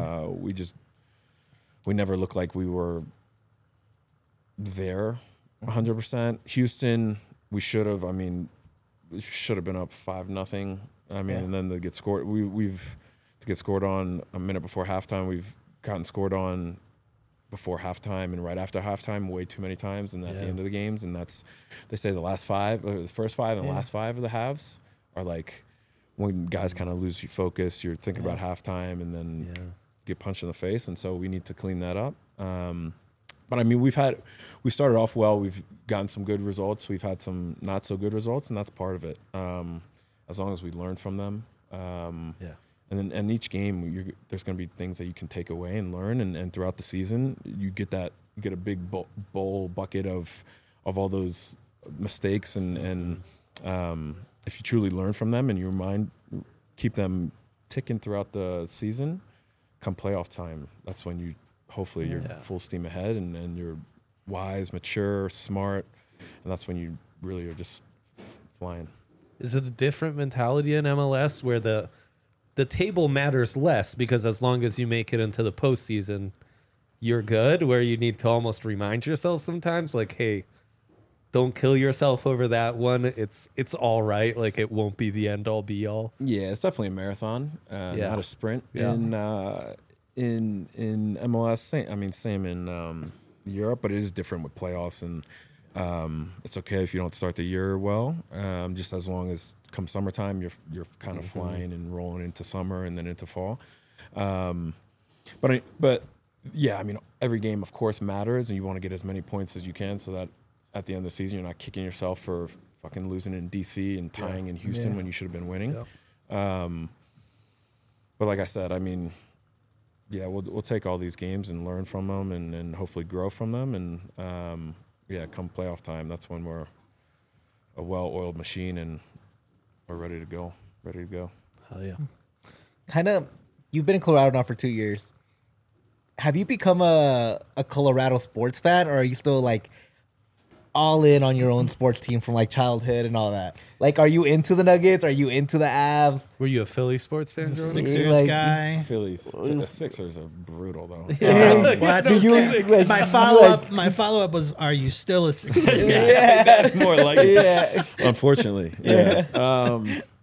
We never looked like we were there 100%. Houston, we should have. I mean, we should have been up 5-0. I mean, and then to get scored, we've to get scored on a minute before halftime. We've gotten scored on before halftime and right after halftime way too many times, and at the end of the games. And that's, they say the first five and the last five of the halves are like when guys kind of lose your focus. You're thinking about halftime, and then get punched in the face. And so we need to clean that up. But I mean, we started off well. We've gotten some good results. We've had some not so good results, and that's part of it. As long as we learn from them. And then each game, there's going to be things that you can take away and learn. And throughout the season, you get a big bowl bucket of all those mistakes. And if you truly learn from them and your mind keep them ticking throughout the season, come playoff time, that's when hopefully you're full steam ahead and you're wise, mature, smart, and that's when you really are just flying. Is it a different mentality in MLS where the table matters less because as long as you make it into the postseason, you're good, where you need to almost remind yourself sometimes, like, hey, don't kill yourself over that one. It's all right. Like, it won't be the end all be all. Yeah, it's definitely a marathon, not a sprint. Yeah. In MLS, same in Europe, but it is different with playoffs, and it's okay if you don't start the year well. Just as long as come summertime, you're kind of flying and rolling into summer and then into fall. But yeah, I mean, every game of course matters, and you want to get as many points as you can so that at the end of the season you're not kicking yourself for fucking losing in DC and tying in Houston when you should have been winning. But like I said, I mean, yeah, we'll take all these games and learn from them and hopefully grow from them. And come playoff time, that's when we're a well-oiled machine and we're ready to go. Hell yeah. Kind of, you've been in Colorado now for 2 years. Have you become a Colorado sports fan, or are you still like all in on your own sports team from like childhood and all that? Like, are you into the Nuggets? Are you into the Avs? Were you a Philly sports fan growing up? Sixers Like- guy. Phillies, the Sixers are brutal though. Well, that's Do what you- I'm saying. like- My follow up was, are you still a Sixers guy? That's more like it. Yeah. Unfortunately, yeah,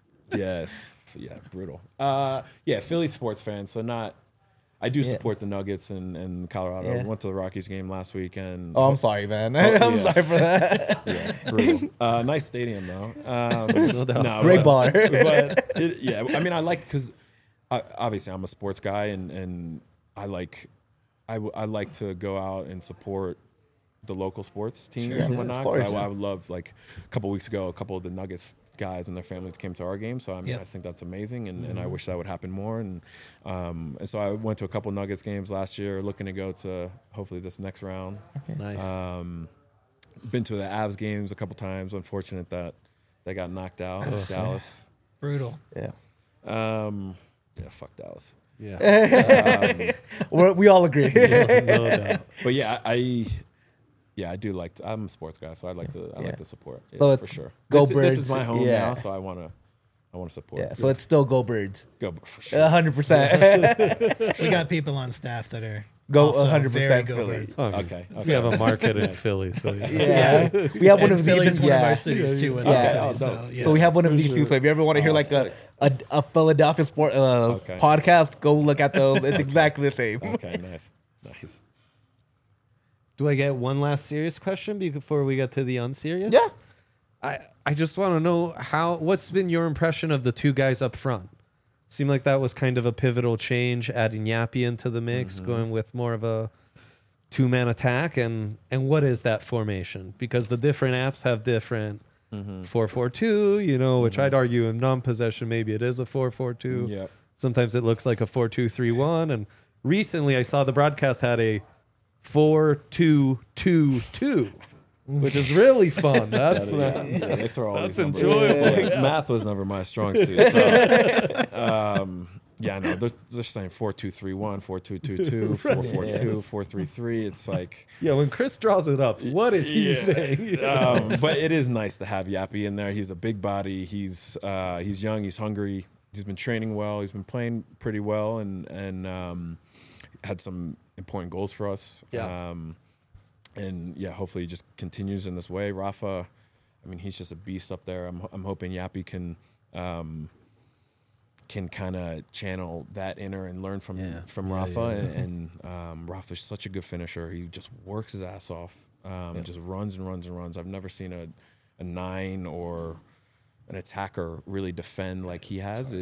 brutal. Philly sports fan. So not. I do support the Nuggets and Colorado. Yeah. Went to the Rockies game last weekend. Oh, I'm sorry, man. I'm yeah. sorry for that. Yeah, brutal. Nice stadium though. No doubt. No, Great bar. But I mean, I like, because obviously I'm a sports guy, and I like to go out and support the local sports teams and whatnot. of course. So I would love, like a couple weeks ago, a couple of the Nuggets guys and their families came to our game. So I mean, I think that's amazing, and I wish that would happen more. And so I went to a couple Nuggets games last year, looking to go to hopefully this next round. Nice. Been to the Avs games a couple times. Unfortunate that they got knocked out. Dallas. Brutal. Yeah. Fuck Dallas. Yeah. We all agree. No doubt. But yeah, I do like. I'm a sports guy, so I like to support. Yeah, So for it's sure. go This Birds. is my home Yeah. now, so I want to support. Yeah, so it's still go Birds. Go for sure. 100%. We got people on staff that are Go also 100% very go Philly. Birds. Okay. We have a market in Philly, so Yeah. We have one And of Philly's these. one of Yeah. our cities too. With Yeah. us, so, yeah. So we have one of these too. So if you ever want to hear like sick. a Philadelphia sport podcast, go look at those. It's exactly the same. Okay. Nice. do I get one last serious question before we get to the unserious? Yeah. I just want to know what's been your impression of the two guys up front? Seemed like that was kind of a pivotal change, adding Yappy into the mix, going with more of a two-man attack. And what is that formation? Because the different apps have different 4-4-2, which I'd argue in non-possession, maybe it is a 4-4-2. Yep. Sometimes it looks like a 4-2-3-1. And recently I saw the broadcast had a 4-2-2-2. Which is really fun. That's they throw all that's these numbers. enjoyable. Like, math was never my strong suit. So, no, they're saying 4-2-3-1, 4-2-2-2, 4-4-2, 4-3-3. It's like, yeah. When Chris draws it up, what is he saying? but it is nice to have Yappy in there. He's a big body. He's young. He's hungry. He's been training well. He's been playing pretty well, and had some important goals for us. Yeah. And yeah, hopefully he just continues in this way. Rafa, I mean, he's just a beast up there. I'm hoping Yappy can kind of channel that inner and learn from Rafa. And Rafa's such a good finisher. He just works his ass off. Just runs and runs and runs. I've never seen a 9 or an attacker really defend like he has.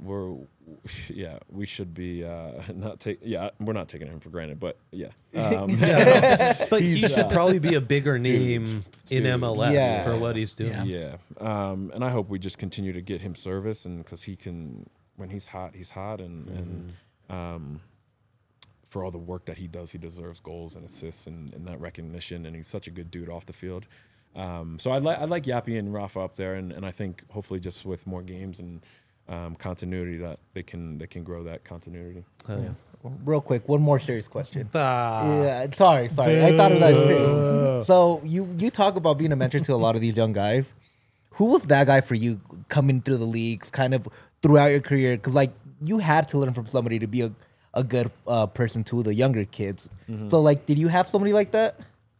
We should be we're not taking him for granted, but but he should probably be a bigger name in MLS for what he's doing. And I hope we just continue to get him service, and because he can, when he's hot, and for all the work that he does, he deserves goals and assists and that recognition, and he's such a good dude off the field. So I'd like Yappy and Rafa up there, and I think hopefully just with more games and continuity that they can grow that continuity. Real quick, one more serious question. Ah. Yeah, sorry. I thought of that too. So you talk about being a mentor to a lot of these young guys. Who was that guy for you coming through the leagues, kind of throughout your career? Because like you had to learn from somebody to be a good person to the younger kids. So like, did you have somebody like that?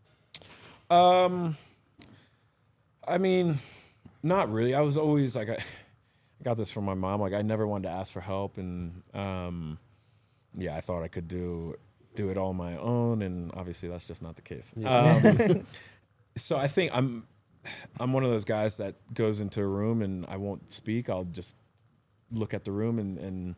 I mean, not really. I was always like, I got this from my mom. Like, I never wanted to ask for help, and I thought I could do it all on my own, and obviously that's just not the case. So I think I'm one of those guys that goes into a room and I won't speak. I'll just look at the room and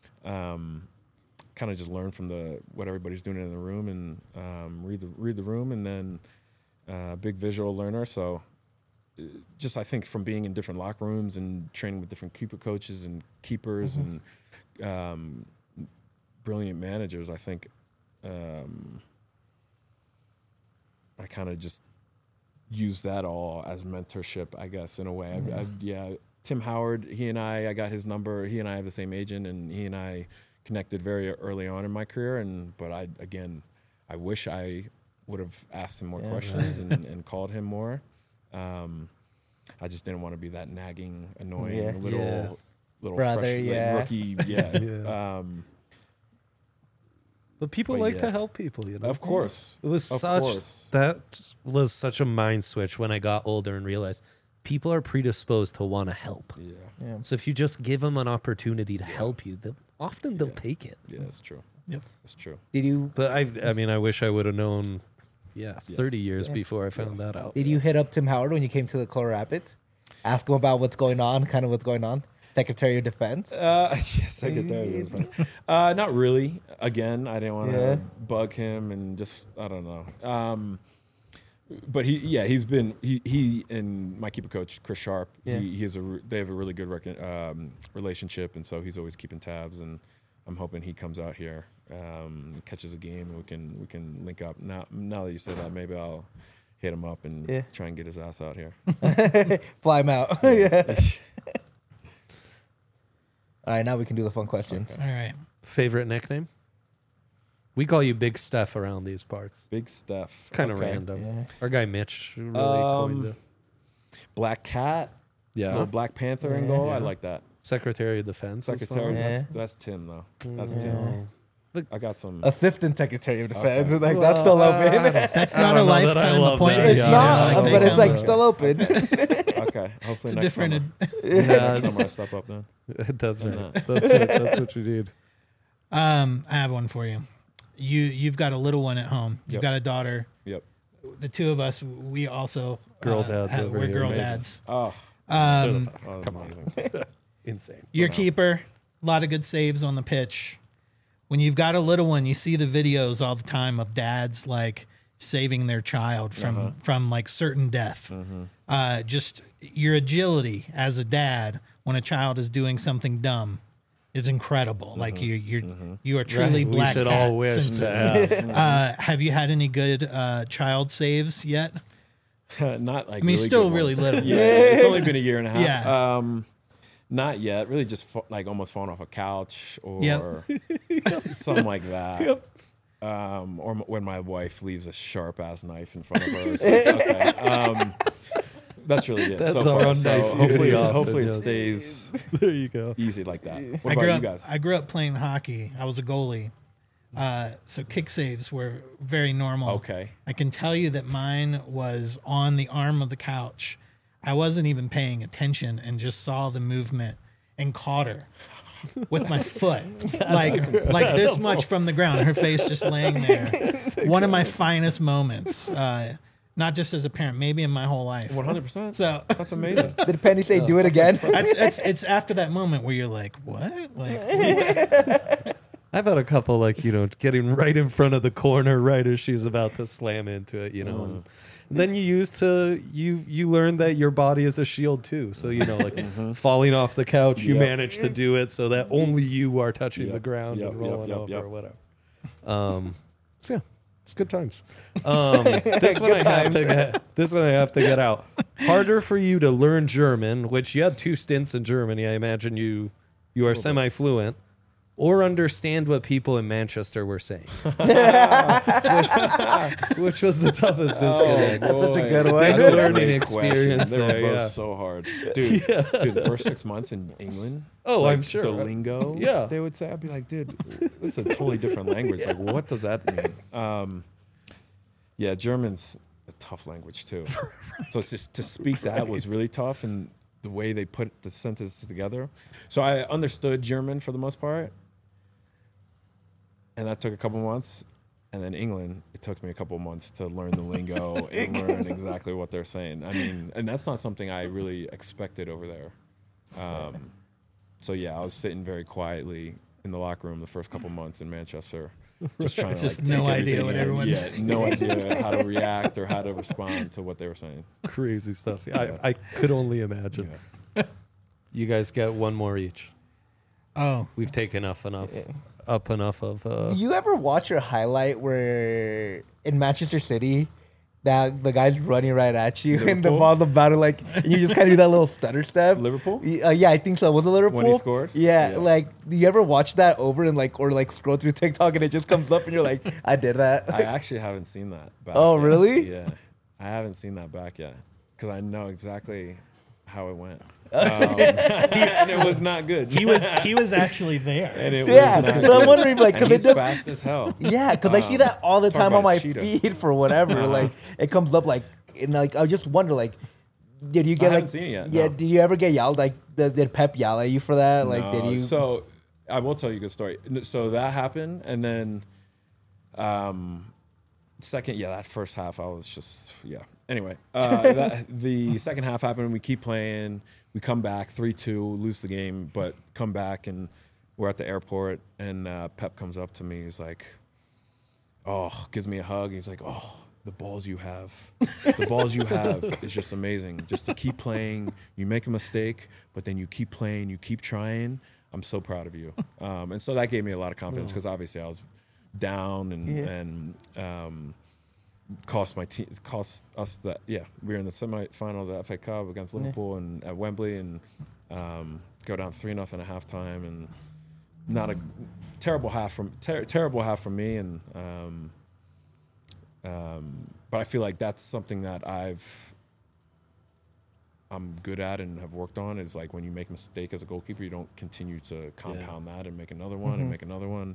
kind of just learn from what everybody's doing in the room, and read the room, and then big visual learner. So. Just I think from being in different locker rooms and training with different keeper coaches and keepers and brilliant managers, I think I kind of just use that all as mentorship, I guess, in a way. Tim Howard, I got his number. He and I have the same agent, and he and I connected very early on in my career. But I wish I would have asked him more questions and called him more. I just didn't want to be that nagging, annoying little brother, fresh rookie. But people to help people, Of course. It was that was such a mind switch when I got older and realized people are predisposed to want to help. Yeah. So if you just give them an opportunity to help you, they'll take it. Yeah, that's true. Yep. That's true. Did you? But I mean, I wish I would have known. 30 years before I found that out. Did you hit up Tim Howard when you came to the Colorado Rapids? Ask him about what's going on, kind of what's going on? Secretary of Defense? Secretary of Defense. Not really. Again, I didn't want to bug him and just, I don't know. But he's been, he and my keeper coach, Chris Sharp, they have a really good relationship, and so he's always keeping tabs, and I'm hoping he comes out here, catches a game, and we can link up. Now that you say that, maybe I'll hit him up and try and get his ass out here. Fly him out. All right, now we can do the fun questions. All right. Favorite nickname? We call you Big Steph around these parts. Big Steph. It's kind of random. Yeah. Our guy Mitch really coined it. Black Cat. Yeah. Little Black Panther in goal. I like that. Secretary of Defense. Secretary. That's Tim, though. That's Tim. I got some Assistant Secretary of Defense. Okay. Like that's still open. That's not a lifetime appointment. It's not, but it's like still open. Okay. Hopefully next summer. Next summer I step up then. That's right. That's what you need. I have one for you. You've got a little one at home. You've got a daughter. Yep. The two of us, we also Girl dads over we're here. girl Amazing. dads. Oh, Um, amazing. Insane. Your keeper, a lot of good saves on the pitch. When you've got a little one, you see the videos all the time of dads like saving their child from like certain death. Just your agility as a dad when a child is doing something dumb is incredible. Like you are truly Right, we black should cat all wish senses. to Have you had any good child saves yet? Not like. I mean, really still good really ones. little. Yeah, it's only been a year and a half. Yeah. Not yet. Really, just like almost falling off a couch or Yep. something like that. Or when my wife leaves a sharp ass knife in front of her. It's like, okay. That's really it. That's so our far. own So knife hopefully, duty often, hopefully yes. it stays There you go. easy like that. What I about grew you up. guys? I grew up playing hockey. I was a goalie, so kick saves were very normal. Okay. I can tell you that mine was on the arm of the couch. I wasn't even paying attention and just saw the movement and caught her with my foot, like this much from the ground. Her face just laying there. One of my finest moments, not just as a parent, maybe in my whole life. 100%. So That's amazing. Did Penny say do it again? it's after that moment where you're like, what? Like, I've had a couple like, getting right in front of the corner right as she's about to slam into it, and then you learn that your body is a shield too. So, like falling off the couch, you Yep. manage to do it so that only you are touching the Yep. ground Yep, and yep, rolling yep, over yep. or whatever. So yeah, it's good times. This one I have to get out. Harder for you to learn German, which you had 2 stints in Germany. I imagine you are semi-fluent, or understand what people in Manchester were saying. which was the toughest disconnect. That's such a boy. good one. That's Good a learning great experience question. They there, were both yeah. so hard. Dude, the first 6 months in England. Oh, like, I'm sure. The lingo Yeah. they would say, I'd be like, dude, this is a totally different language. Like, what does that mean? Yeah, German's a tough language too. So it's just to speak that was really tough, and the way they put the sentences together. So I understood German for the most part, and that took a couple months. And then England, it took me a couple months to learn the lingo and learn exactly what they're saying. I mean, and that's not something I really expected over there. So yeah, I was sitting very quietly in the locker room the first couple months in Manchester, just trying to Just like no take idea everything what in. everyone's Yeah, no idea how to react or how to respond to what they were saying. Crazy stuff. I could only imagine. Yeah. You guys get one more each. oh, We've taken up enough of. Do you ever watch your highlight where in Manchester City that the guy's running right at you and the Liverpool? ball's about to like and you just kind of do that little stutter step? Liverpool? Yeah, I think so. Was it Liverpool? When he scored? Yeah, Yeah. like do you ever watch that over and like or like scroll through TikTok and it just comes up and you're like, I did that. I actually haven't seen that back Oh, yet. really? Yeah. I haven't seen that back yet because I know exactly how it went. And it was not good. he was actually there. And it Yeah, was not but I'm good. wondering like And because it he's does. fast as hell. Yeah, because I see that all the talk time on about my a cheetah. feed for whatever. Like it comes up like and like I just wonder like. Did you get I like? haven't seen it yet, Yeah. no. Did you ever get yelled like? Did Pep yell at you for that? Like, No, did you? So I will tell you a good story. So that happened, and then second, that first half I was just Anyway, the second half happened. We keep playing. We come back 3-2, lose the game, but come back and we're at the airport. And Pep comes up to me. He's like, gives me a hug. He's like, the balls you have is just amazing. Just to keep playing, you make a mistake, but then you keep playing, you keep trying. I'm so proud of you. And so that gave me a lot of confidence because obviously I was down and cost us that. Yeah, we were in the semifinals at FA Cup against Liverpool and at Wembley and go down 3-0 at halftime and not a terrible half from me and. But I feel like that's something that I'm good at and have worked on is like when you make a mistake as a goalkeeper, you don't continue to compound that and make another one and make another one.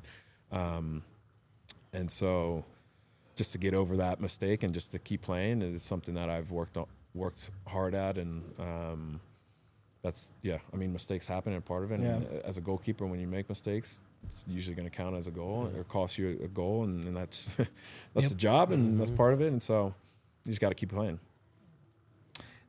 And so just to get over that mistake and just to keep playing is something that I've worked hard at. And mistakes happen and part of it. And as a goalkeeper, when you make mistakes, it's usually going to count as a goal or cost you a goal, and that's the job, and that's part of it. And so you just got to keep playing.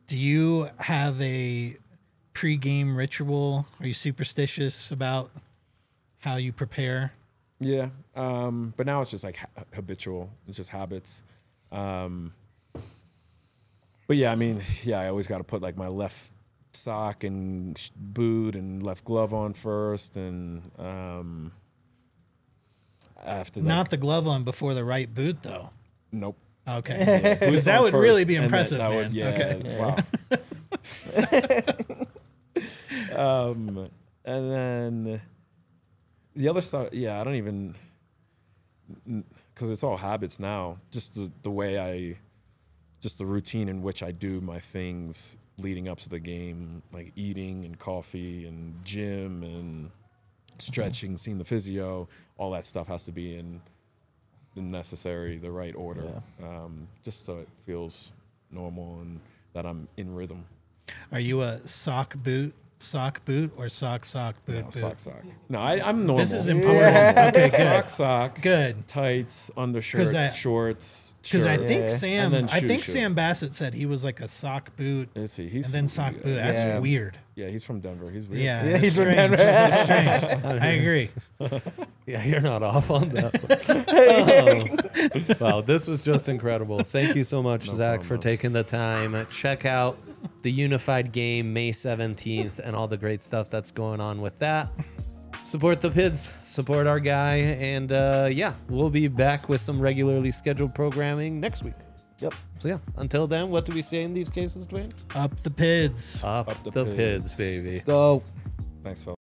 Do you have a pre-game ritual? Are you superstitious about how you prepare? Yeah, but now it's just like habitual. It's just habits. But yeah, I mean, yeah, I always got to put like my left sock and boot and left glove on first, and after that, Not the glove on before the right boot, though. nope. Okay. Yeah, Because boots that on would first, really be and impressive, that man. would, yeah, Okay. wow. And then the other side, yeah, I don't even, because it's all habits now. Just the way just the routine in which I do my things leading up to the game, like eating and coffee and gym and stretching, seeing the physio, all that stuff has to be in the right order, just so it feels normal and that I'm in rhythm. Are you a sock boot, or sock boot? No, sock. No, I'm normal. This is important. Okay, good. Sock. Good. Tights, undershirt, shorts. Because I shirt. think And then shoe. Sam Bassett said he was like a sock boot Let's see, and then sock boot. That's weird. Yeah, he's from Denver. He's weird. Yeah, Yeah, he's that's from strange. Denver. That's strange. I agree. Yeah, you're not off on that. Wow, this was just incredible. Thank you so much, Zach, for taking the time. Check out the Unified Game May 17th and all the great stuff that's going on with that. Support the Pids, support our guy, and yeah, we'll be back with some regularly scheduled programming next week. Yep. So yeah, until then, what do we say in these cases, Dwayne? Up the Pids. Up the Pids, baby. Go. Thanks, fellas.